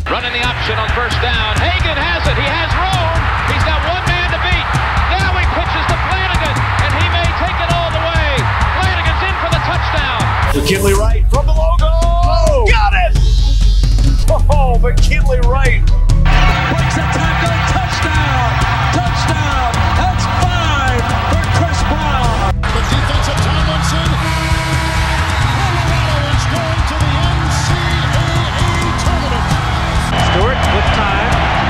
Running the option on first down. Hagan has it. He has room. He's got one man to beat. Now he pitches to Flanagan, and he may take it all the way. Flanagan's in for the touchdown. McKinley Wright from the logo. Oh, got it! Oh, McKinley Wright. Breaks a tackle. Touchdown. Touchdown. That's 5 for Chris Brown. The defensive Tomlinson. Colorado is going to the NCAA tournament. Stewart with time.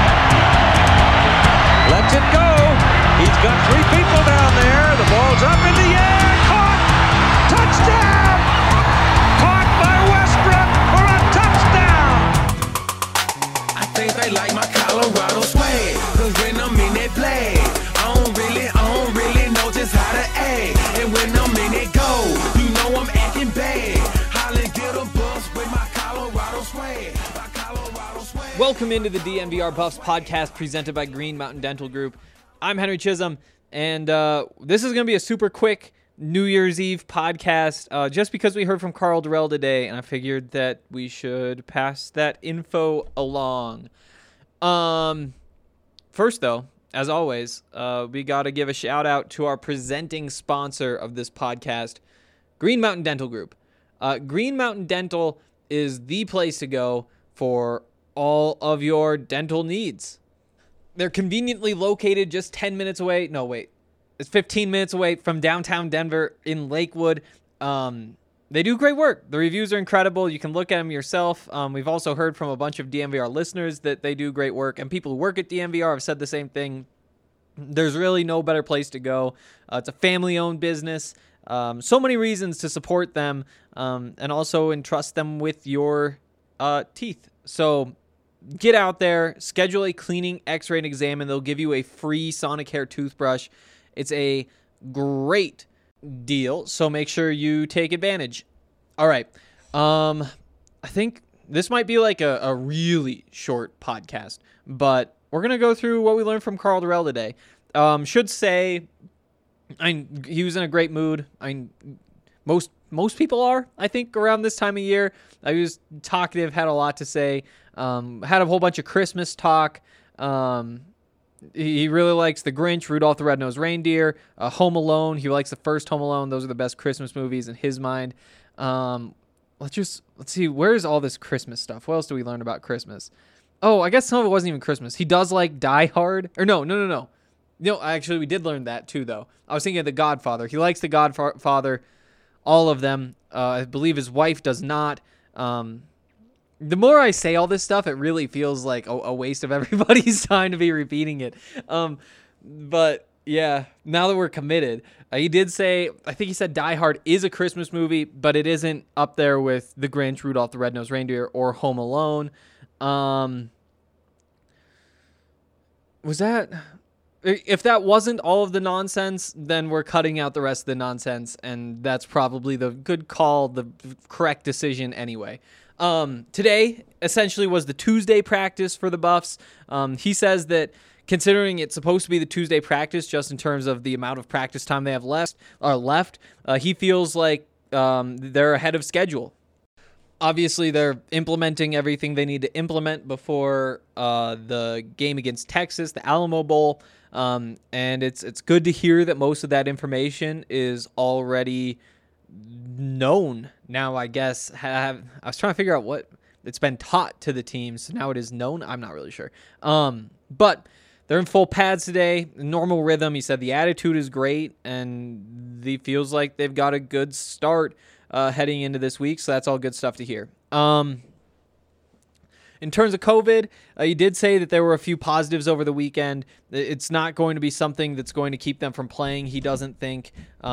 Lets it go. He's got 3 people down there. The ball's up in the air. Caught. Touchdown. Caught by Westbrook for a touchdown. I think they like my Colorado swag. Cause when I'm in that play, I don't really know just how to act. And when I'm in it go, you know I'm acting bad. Holland get a bus with my Colorado swag. My Colorado swag. Welcome into the DNVR Buffs podcast presented by Green Mountain Dental Group. I'm Henry Chisholm, and this is going to be a super quick New Year's Eve podcast just because we heard from Karl Dorrell today, and I figured that we should pass that info along. First, though, as always, we got to give a shout-out to our presenting sponsor of this podcast, Green Mountain Dental Group. Green Mountain Dental is the place to go for all of your dental needs. They're conveniently located just 10 minutes away. No, wait. It's 15 minutes away from downtown Denver in Lakewood. They do great work. The reviews are incredible. You can look at them yourself. We've also heard from a bunch of DNVR listeners that they do great work, and people who work at DNVR have said the same thing. There's really no better place to go. It's a family-owned business. So many reasons to support them and also entrust them with your teeth. So get out there, schedule a cleaning, x-ray, and exam, and they'll give you a free Sonicare toothbrush. It's a great deal, so make sure you take advantage. All right. I think this might be like a really short podcast, but we're going to go through what we learned from Karl Dorrell today. Should say, he was in a great mood. Most people are, I think, around this time of year. He was talkative, had a lot to say, had a whole bunch of Christmas talk. He really likes The Grinch, Rudolph the Red-Nosed Reindeer, Home Alone. He likes the first Home Alone. Those are the best Christmas movies in his mind. Let's see, where's all this Christmas stuff? What else do we learn about Christmas? Oh, I guess some of it wasn't even Christmas. He does like Die Hard. Or no. No, actually, we did learn that too, though. I was thinking of The Godfather. He likes The Godfather, all of them. I believe his wife does not. The more I say all this stuff, it really feels like a waste of everybody's time to be repeating it. But yeah, now that we're committed, he did say, I think he said Die Hard is a Christmas movie, but it isn't up there with The Grinch, Rudolph the Red-Nosed Reindeer, or Home Alone. If that wasn't all of the nonsense, then we're cutting out the rest of the nonsense, and that's probably the good call, the correct decision anyway. Today essentially was the Tuesday practice for the Buffs. He says that considering it's supposed to be the Tuesday practice, just in terms of the amount of practice time they have left, he feels like they're ahead of schedule. Obviously, they're implementing everything they need to implement before the game against Texas, the Alamo Bowl, and it's good to hear that most of that information is already known now. I guess I was trying to figure out what it's been taught to the team, so now it is known. I'm not really sure. But they're in full pads today, normal rhythm. He said the attitude is great, and he feels like they've got a good start heading into this week, so that's all good stuff to hear. In terms of COVID, he did say that there were a few positives over the weekend. It's not going to be something that's going to keep them from playing, he doesn't think.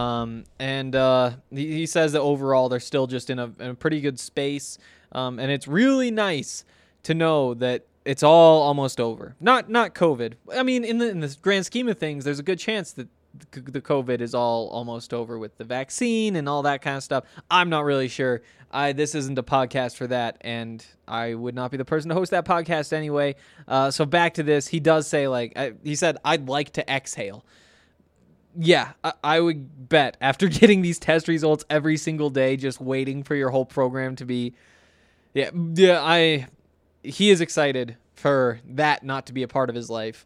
He says that overall they're still just in a pretty good space. And it's really nice to know that it's all almost over. Not COVID. I mean, in the grand scheme of things, there's a good chance that the COVID is all almost over with the vaccine and all that kind of stuff. I'm not really sure. This isn't a podcast for that, and I would not be the person to host that podcast anyway. So back to this, he does say, he said, I'd like to exhale. Yeah, I would bet after getting these test results every single day, just waiting for your whole program to be, he is excited for that not to be a part of his life.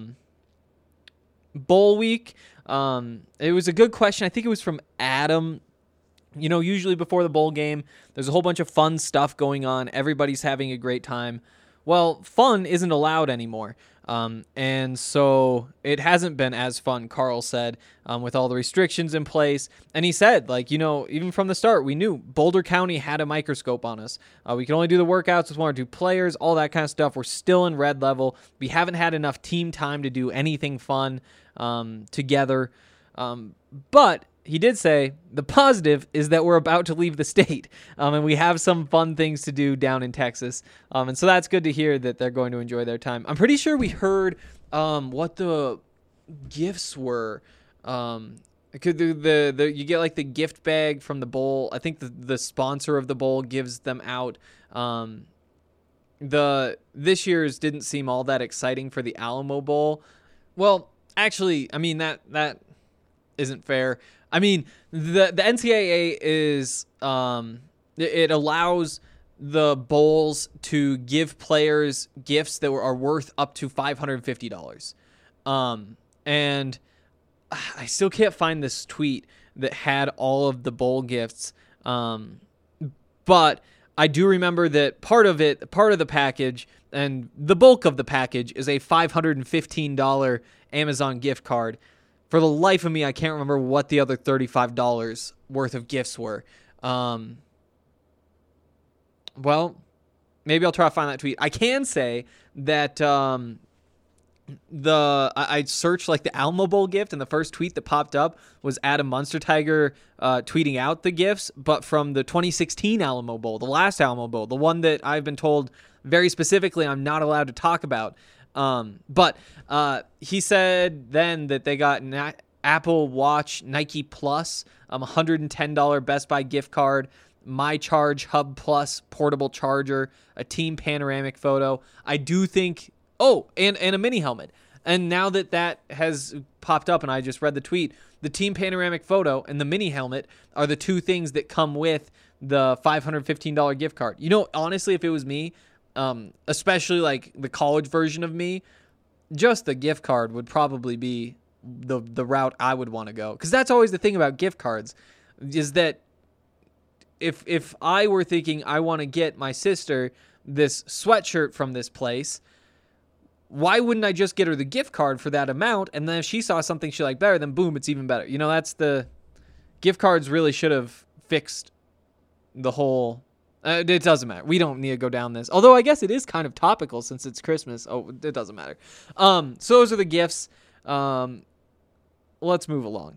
Bowl week, it was a good question. I think it was from Adam. You know, usually before the bowl game, there's a whole bunch of fun stuff going on. Everybody's having a great time. Well, fun isn't allowed anymore. And so it hasn't been as fun, Carl said, with all the restrictions in place. And he said, like, you know, even from the start, we knew Boulder County had a microscope on us. We could only do the workouts with 1 or 2 players, all that kind of stuff. We're still in red level. We haven't had enough team time to do anything fun together. But he did say the positive is that we're about to leave the state, and we have some fun things to do down in Texas. And so that's good to hear that they're going to enjoy their time. I'm pretty sure we heard what the gifts were. You get like the gift bag from the bowl. I think the sponsor of the bowl gives them out. This year's didn't seem all that exciting for the Alamo Bowl. Well, actually, I mean that isn't fair. I mean, the NCAA is it allows the bowls to give players gifts that are worth up to $550. And I still can't find this tweet that had all of the bowl gifts. But I do remember that part of the package and the bulk of the package is a $515 Amazon gift card. For the life of me, I can't remember what the other $35 worth of gifts were. Well, maybe I'll try to find that tweet. I can say that I searched like the Alamo Bowl gift, and the first tweet that popped up was Adam Munsterteiger tweeting out the gifts, but from the 2016 Alamo Bowl, the last Alamo Bowl, the one that I've been told very specifically I'm not allowed to talk about. But he said then that they got an Apple Watch Nike Plus, $110 Best Buy gift card, My Charge Hub Plus portable charger, a team panoramic photo. I do think, and a mini helmet. And now that has popped up and I just read the tweet, the team panoramic photo and the mini helmet are the 2 things that come with the $515 gift card. You know, honestly, if it was me, especially like the college version of me, just the gift card would probably be the route I would want to go. Because that's always the thing about gift cards, is that if I were thinking I want to get my sister this sweatshirt from this place, why wouldn't I just get her the gift card for that amount? And then if she saw something she liked better, then boom, it's even better. You know, that's the gift cards really should have fixed the whole. It doesn't matter. We don't need to go down this. Although I guess it is kind of topical since it's Christmas. Oh, it doesn't matter. So those are the gifts. Let's move along.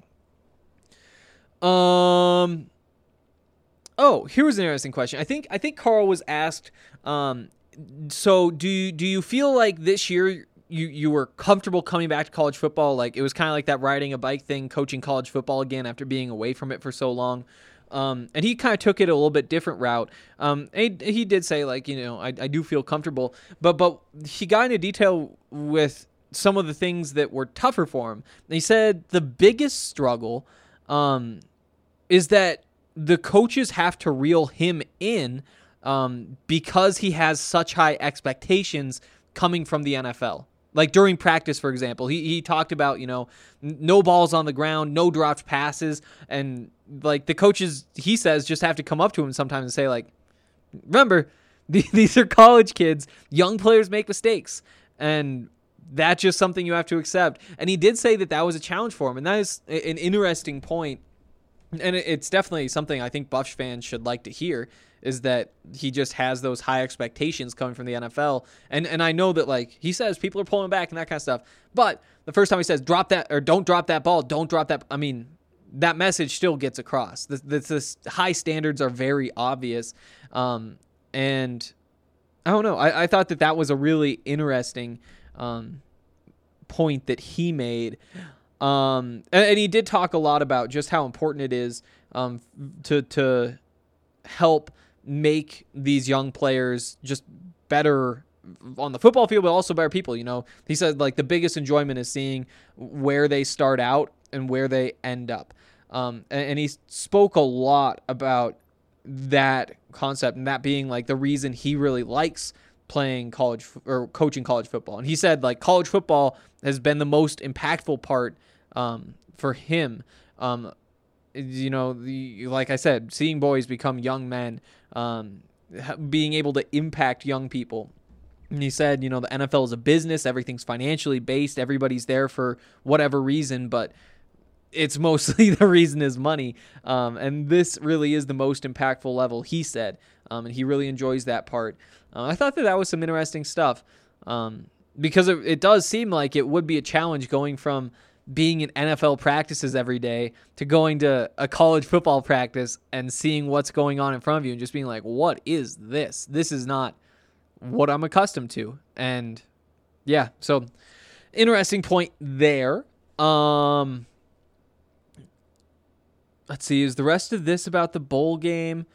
Here was an interesting question. I think Carl was asked, so do you feel like this year you were comfortable coming back to college football? Like it was kind of like that riding a bike thing, coaching college football again after being away from it for so long. And he kind of took it a little bit different route. He did say, like, you know, I do feel comfortable, but he got into detail with some of the things that were tougher for him. And he said the biggest struggle is that the coaches have to reel him in because he has such high expectations coming from the NFL. Like during practice, for example, he talked about, you know, no balls on the ground, no dropped passes, and like the coaches, he says, just have to come up to him sometimes and say, like, remember, these are college kids, young players make mistakes, and that's just something you have to accept. And he did say that was a challenge for him, and that is an interesting point, and it's definitely something I think Buffs fans should like to hear, is that he just has those high expectations coming from the NFL. And I know that, like, he says people are pulling back and that kind of stuff. But the first time he says, drop that, or don't drop that ball, don't drop that, I mean, that message still gets across. The high standards are very obvious. And I don't know. I thought that was a really interesting point that he made. And he did talk a lot about just how important it is to help make these young players just better on the football field, but also better people. You know, he said, like, the biggest enjoyment is seeing where they start out and where they end up. And he spoke a lot about that concept, and that being like the reason he really likes playing or coaching college football. And he said like college football has been the most impactful part for him. Like I said, seeing boys become young men, being able to impact young people. And he said, the NFL is a business. Everything's financially based. Everybody's there for whatever reason, but it's mostly the reason is money. And this really is the most impactful level, he said. And he really enjoys that part. I thought that was some interesting stuff because it does seem like it would be a challenge going from being in NFL practices every day to going to a college football practice and seeing what's going on in front of you and just being like, what is this? This is not what I'm accustomed to. And yeah, so interesting point there. Let's see, is the rest of this about the bowl game?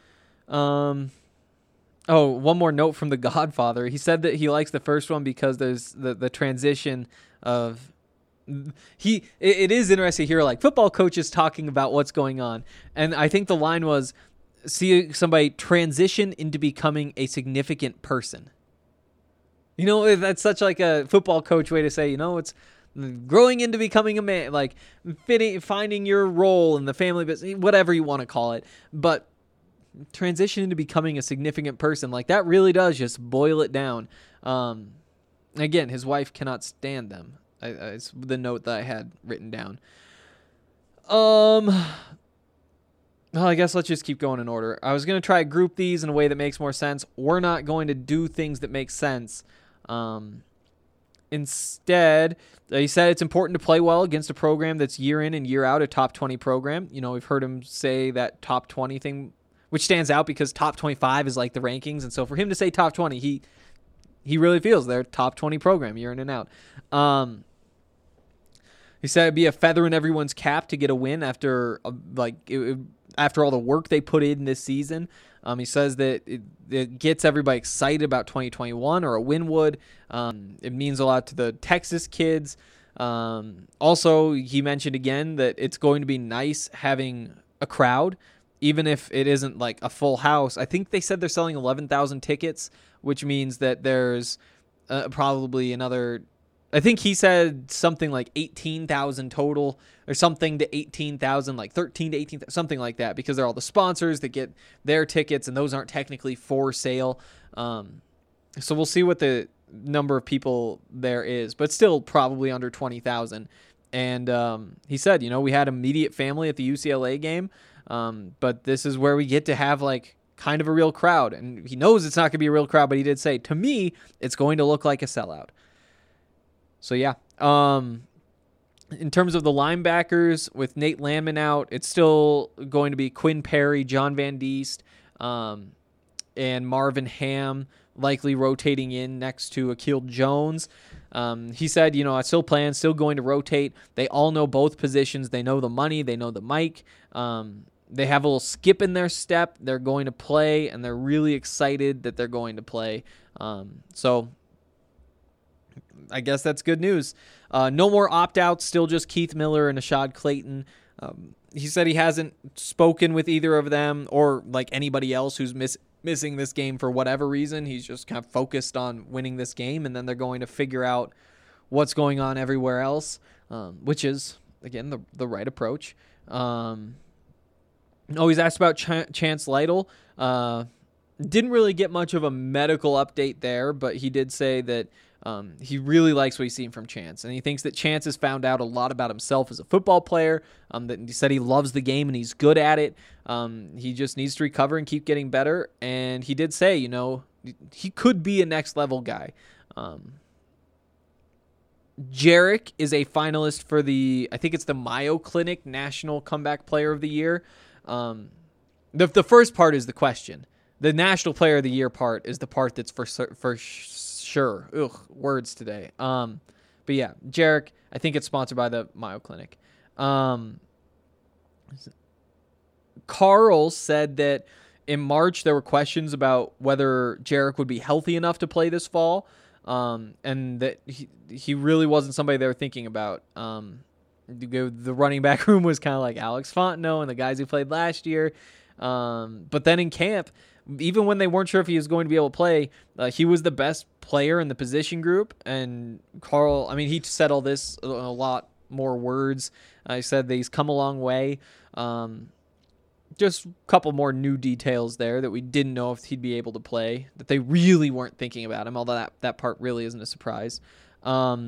Oh, one more note from The Godfather. He said that he likes the first one because there's the transition of it is interesting to hear like football coaches talking about what's going on. And I think the line was, see somebody transition into becoming a significant person. That's such like a football coach way to say, it's growing into becoming a man, like finding your role in the family business, whatever you want to call it. But transition into becoming a significant person, like that really does just boil it down. Again, his wife cannot stand them. It's the note that I had written down. Well, I guess let's just keep going in order. I was going to try to group these in a way that makes more sense. We're not going to do things that make sense. Instead, he said it's important to play well against a program that's year in and year out a top 20 program. We've heard him say that top 20 thing, which stands out because top 25 is like the rankings. And so for him to say top 20, he really feels they're top 20 program year in and out. He said it'd be a feather in everyone's cap to get a win after after all the work they put in this season. He says that it gets everybody excited about 2021, or a win would. It means a lot to the Texas kids. Also, he mentioned again that it's going to be nice having a crowd, even if it isn't like a full house. I think they said they're selling 11,000 tickets, which means that there's probably another, I think he said something like 18,000 total or something to 18,000, like 13 to 18,000, something like that, because they're all the sponsors that get their tickets and those aren't technically for sale. So we'll see what the number of people there is, but still probably under 20,000. And he said, we had immediate family at the UCLA game, but this is where we get to have like kind of a real crowd. And he knows it's not going to be a real crowd, but he did say, to me, it's going to look like a sellout. So, yeah. In terms of the linebackers, with Nate Landman out, it's still going to be Quinn Perry, John Van Diest, and Marvin Ham likely rotating in next to Akil Jones. He said, I still plan, still going to rotate. They all know both positions. They know the money. They know the mic. They have a little skip in their step. They're going to play, and they're really excited that they're going to play. So I guess that's good news. No more opt-outs, still just Keith Miller and Ashad Clayton. He said he hasn't spoken with either of them or like anybody else who's missing this game for whatever reason. He's just kind of focused on winning this game, and then they're going to figure out what's going on everywhere else, which is, again, the right approach. He's asked about Chance Lytle. Didn't really get much of a medical update there, but he did say that he really likes what he's seen from Chance, and he thinks that Chance has found out a lot about himself as a football player. That he said he loves the game and he's good at it. He just needs to recover and keep getting better. And he did say, he could be a next level guy. Jarek is a finalist for I think it's the Mayo Clinic National Comeback Player of the Year. The first part is the question. The National Player of the Year part is the part that's for sure. Ugh, words today. But yeah, Jarek, I think it's sponsored by the Mayo Clinic. Carl said that in March there were questions about whether Jarek would be healthy enough to play this fall, and that he really wasn't somebody they were thinking about. The running back room was kind of like Alex Fontenot and the guys who played last year. But then in camp, even when they weren't sure if he was going to be able to play, he was the best player in the position group. And Carl, I mean, he said all this in a lot more words. He said that he's come a long way. Just a couple more new details there that we didn't know if he'd be able to play, that they really weren't thinking about him, although that part really isn't a surprise. All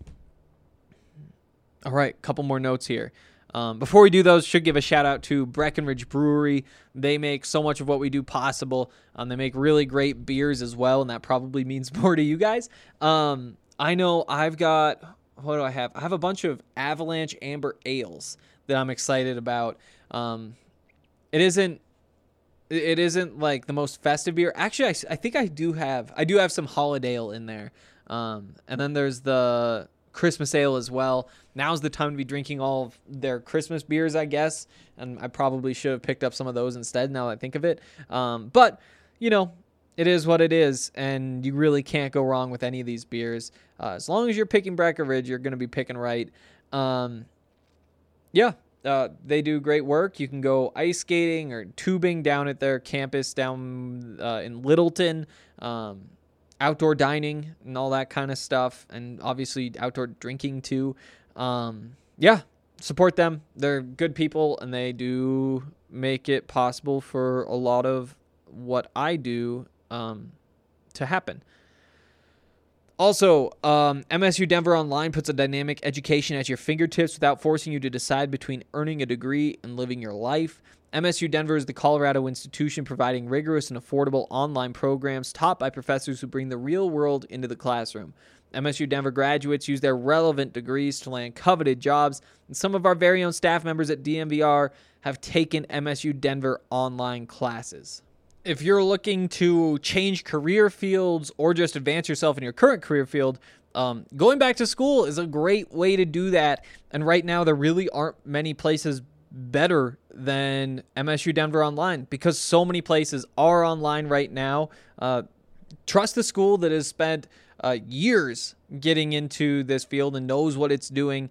right, couple more notes here. Before we do those, should give a shout out to Breckenridge Brewery. They make so much of what we do possible. They make really great beers as well, and that probably means more to you guys. I know I've got, what do I have? I have a bunch of Avalanche Amber Ales that I'm excited about. It isn't like the most festive beer. Actually, I think I do have some Holiday Ale in there. And then there's the Christmas Ale as well. Now's the time to be drinking all of their Christmas beers, I guess. And I probably should have picked up some of those instead now that I think of it. But, you know, it is what it is. And you really can't go wrong with any of these beers. As long as you're picking Breckenridge, you're going to be picking right. They do great work. You can go ice skating or tubing down at their campus down in Littleton. Outdoor dining and all that kind of stuff, and obviously outdoor drinking too. Support them. They're good people, and they do make it possible for a lot of what I do to happen. Also, MSU Denver Online puts a dynamic education at your fingertips without forcing you to decide between earning a degree and living your life. MSU Denver is the Colorado institution providing rigorous and affordable online programs taught by professors who bring the real world into the classroom. MSU Denver graduates use their relevant degrees to land coveted jobs, and some of our very own staff members at DNVR have taken MSU Denver online classes. If you're looking to change career fields or just advance yourself in your current career field, going back to school is a great way to do that. And right now, there really aren't many places better than MSU Denver Online because so many places are online right now. Trust the school that has spent years getting into this field and knows what it's doing.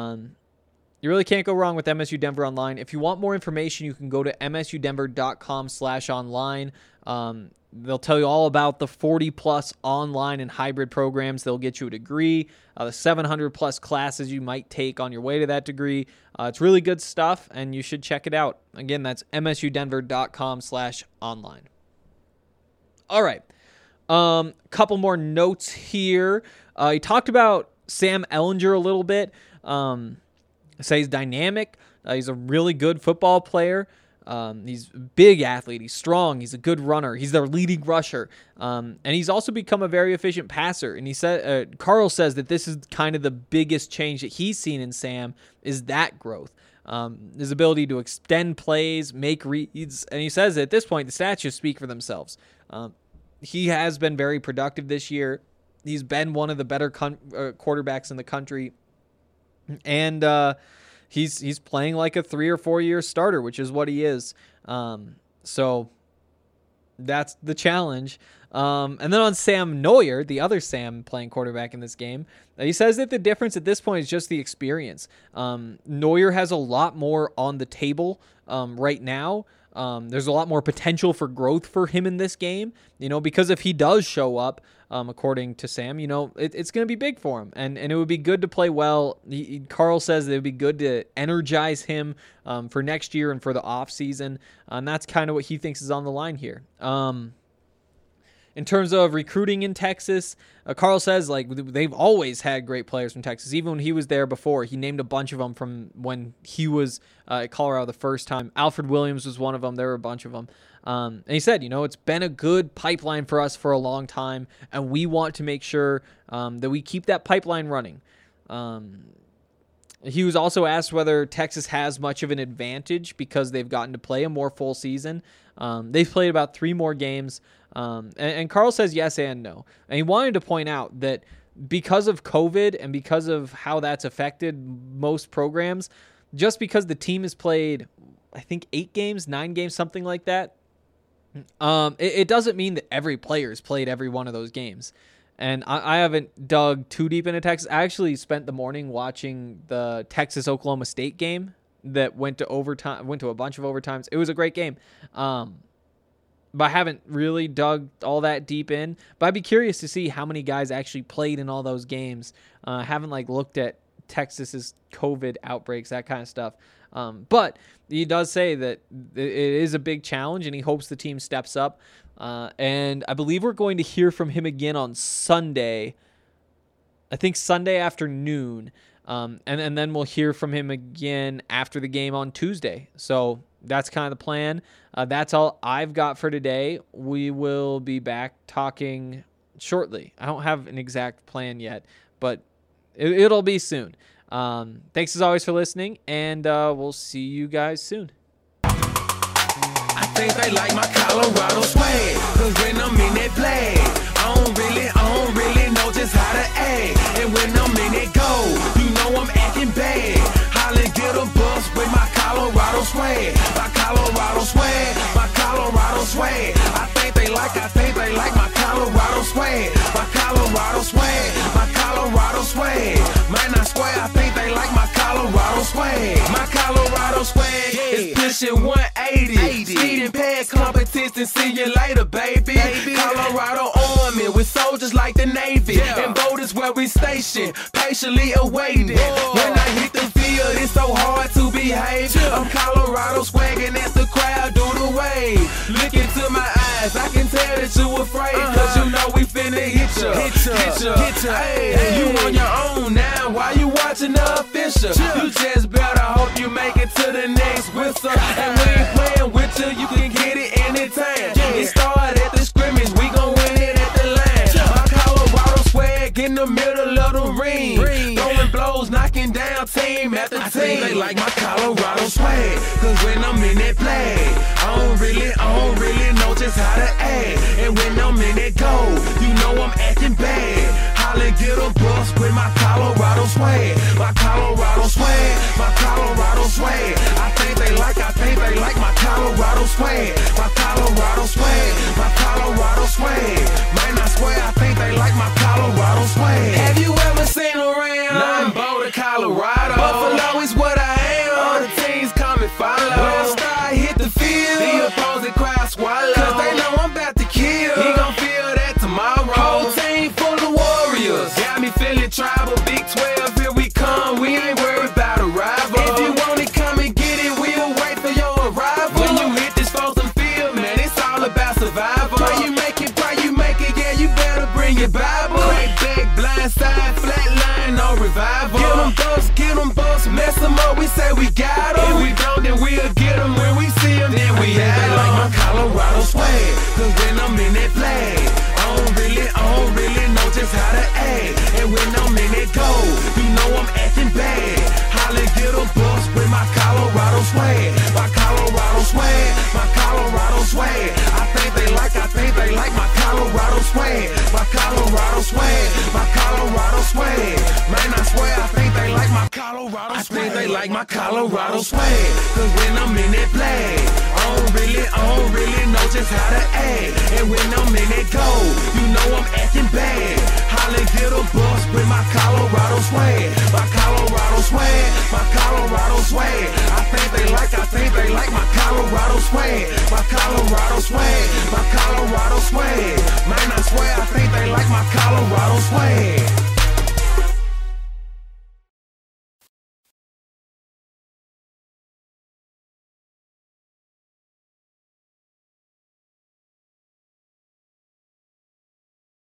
You really can't go wrong with MSU Denver Online. If you want more information, you can go to msudenver.com/online. They'll tell you all about the 40-plus online and hybrid programs. They'll get you a degree, the 700-plus classes you might take on your way to that degree. It's really good stuff, and you should check it out. Again, that's msudenver.com/online. All right. Couple more notes here. He talked about Sam Ehlinger a little bit. Say he's dynamic. He's a really good football player. He's a big athlete. He's strong. He's a good runner. He's their leading rusher. And he's also become a very efficient passer. And he said, Carl says that this is kind of the biggest change that he's seen in Sam is that growth. His ability to extend plays, make reads. And he says that at this point, the stats just speak for themselves. He has been very productive this year. He's been one of the better quarterbacks in the country. And he's playing like a 3 or 4 year starter, which is what he is. So that's the challenge. And then on Sam Neuer, the other Sam playing quarterback in this game, he says that the difference at this point is just the experience. Neuer has a lot more on the table right now. There's a lot more potential for growth for him in this game, because if he does show up, according to Sam, it's going to be big for him, and it would be good to play well. Carl says that it would be good to energize him for next year and for the off season, and that's kind of what he thinks is on the line here. In terms of recruiting in Texas, Carl says they've always had great players from Texas. Even when he was there before, he named a bunch of them from when he was at Colorado the first time. Alfred Williams was one of them. There were a bunch of them. And he said, it's been a good pipeline for us for a long time, and we want to make sure that we keep that pipeline running. He was also asked whether Texas has much of an advantage because they've gotten to play a more full season. They've played about 3 more games. And Carl says yes and no. And he wanted to point out that because of COVID and because of how that's affected most programs, just because the team has played, I think, 8 games, 9 games, something like that, it doesn't mean that every player's played every one of those games. And I haven't dug too deep into Texas. I actually spent the morning watching the Texas-Oklahoma State game that went to overtime, went to a bunch of overtimes. It was a great game. But I haven't really dug all that deep in. But I'd be curious to see how many guys actually played in all those games. I haven't looked at Texas's COVID outbreaks, that kind of stuff. But he does say that it is a big challenge, and he hopes the team steps up. And I believe we're going to hear from him again on Sunday. I think Sunday afternoon. And then we'll hear from him again after the game on Tuesday. So that's kind of the plan. That's all I've got for today. We will be back talking shortly. I don't have an exact plan yet, but it'll be soon. Thanks as always for listening, and we'll see you guys soon. I think they like my Colorado swag, 'cause when I'm in that flag, I don't really know just how to act. And when I'm in that goal, you know I'm acting bad. Holla, get a bus with my Colorado swag. My Colorado swag, my Colorado swag. I think they like my Colorado swag. My Colorado swag, my Colorado swag. Man, I swear I think they like my Colorado swag. My Colorado swag is pushing 180. Speeding past competition, see you later, baby. Colorado Army with soldiers like the Navy. And voters where we station, patiently awaiting. When I hit the field, it's so hard to behave. I'm Colorado swagging as the crowd do the wave. Look into my eyes, I can tell that you afraid. 'Cause you know we finna hit ya. Hey, you on your own now, why you watching the official? You just better hope you make it to the next whistle. And we ain't playing with you, you can get it anytime. It started at the scrimmage, we gon' win it at the line. My Colorado swag in the middle of the ring. Throwing blows, knocking down team after team. I think they like my Colorado swag, 'cause when I'm in that flag, I don't really know just how to act. And when I'm in that goal, you know I'm acting bad. Holla, get a bus with my Colorado swag. My Colorado swag, my Colorado swag. I think they like my Colorado swag. My Colorado swag, my Colorado swag. Man, I swear I think they like my Colorado swag. Have you ever seen around? I'm Boulder, Colorado. Buffalo is what I am. All the teams come and follow. When I start hit the field, the opposing crowd swallow. 'Cause they know I'm about to kill. He gon' feel that tomorrow. Whole team full of warriors. Got me feeling tribal. Big 12, here we come. We ain't worried about a rival. If you want it, come and get it. We'll wait for your arrival. When you hit this frozen field, man, it's all about survival. Pray you make it, yeah, you better bring your Bible. Crack back, blind side, flat line, no revival. Get them bucks, mess them up, we say we got them. If we don't, then we'll get them. When we see them, then we have them. They like my Colorado swag, 'cause when I'm in that flag, I don't really know just how to act. And when I'm in that goal, you know I'm acting bad. Holla, get a bus with my Colorado swag. My Colorado swag, my Colorado swag. I think they like my Colorado swag. My Colorado swag, my Colorado swag. Man, I swear I think they like my Colorado swag. I think they like my Colorado swag, 'cause when I'm in that flag, I don't really know just how to act. And when I'm in that goal, you know I'm acting bad. Holla, get a bus with my Colorado swag. My Colorado swag, my Colorado swag. I think they like my Colorado swag. My Colorado swag, my Colorado swag. Man, I swear I think they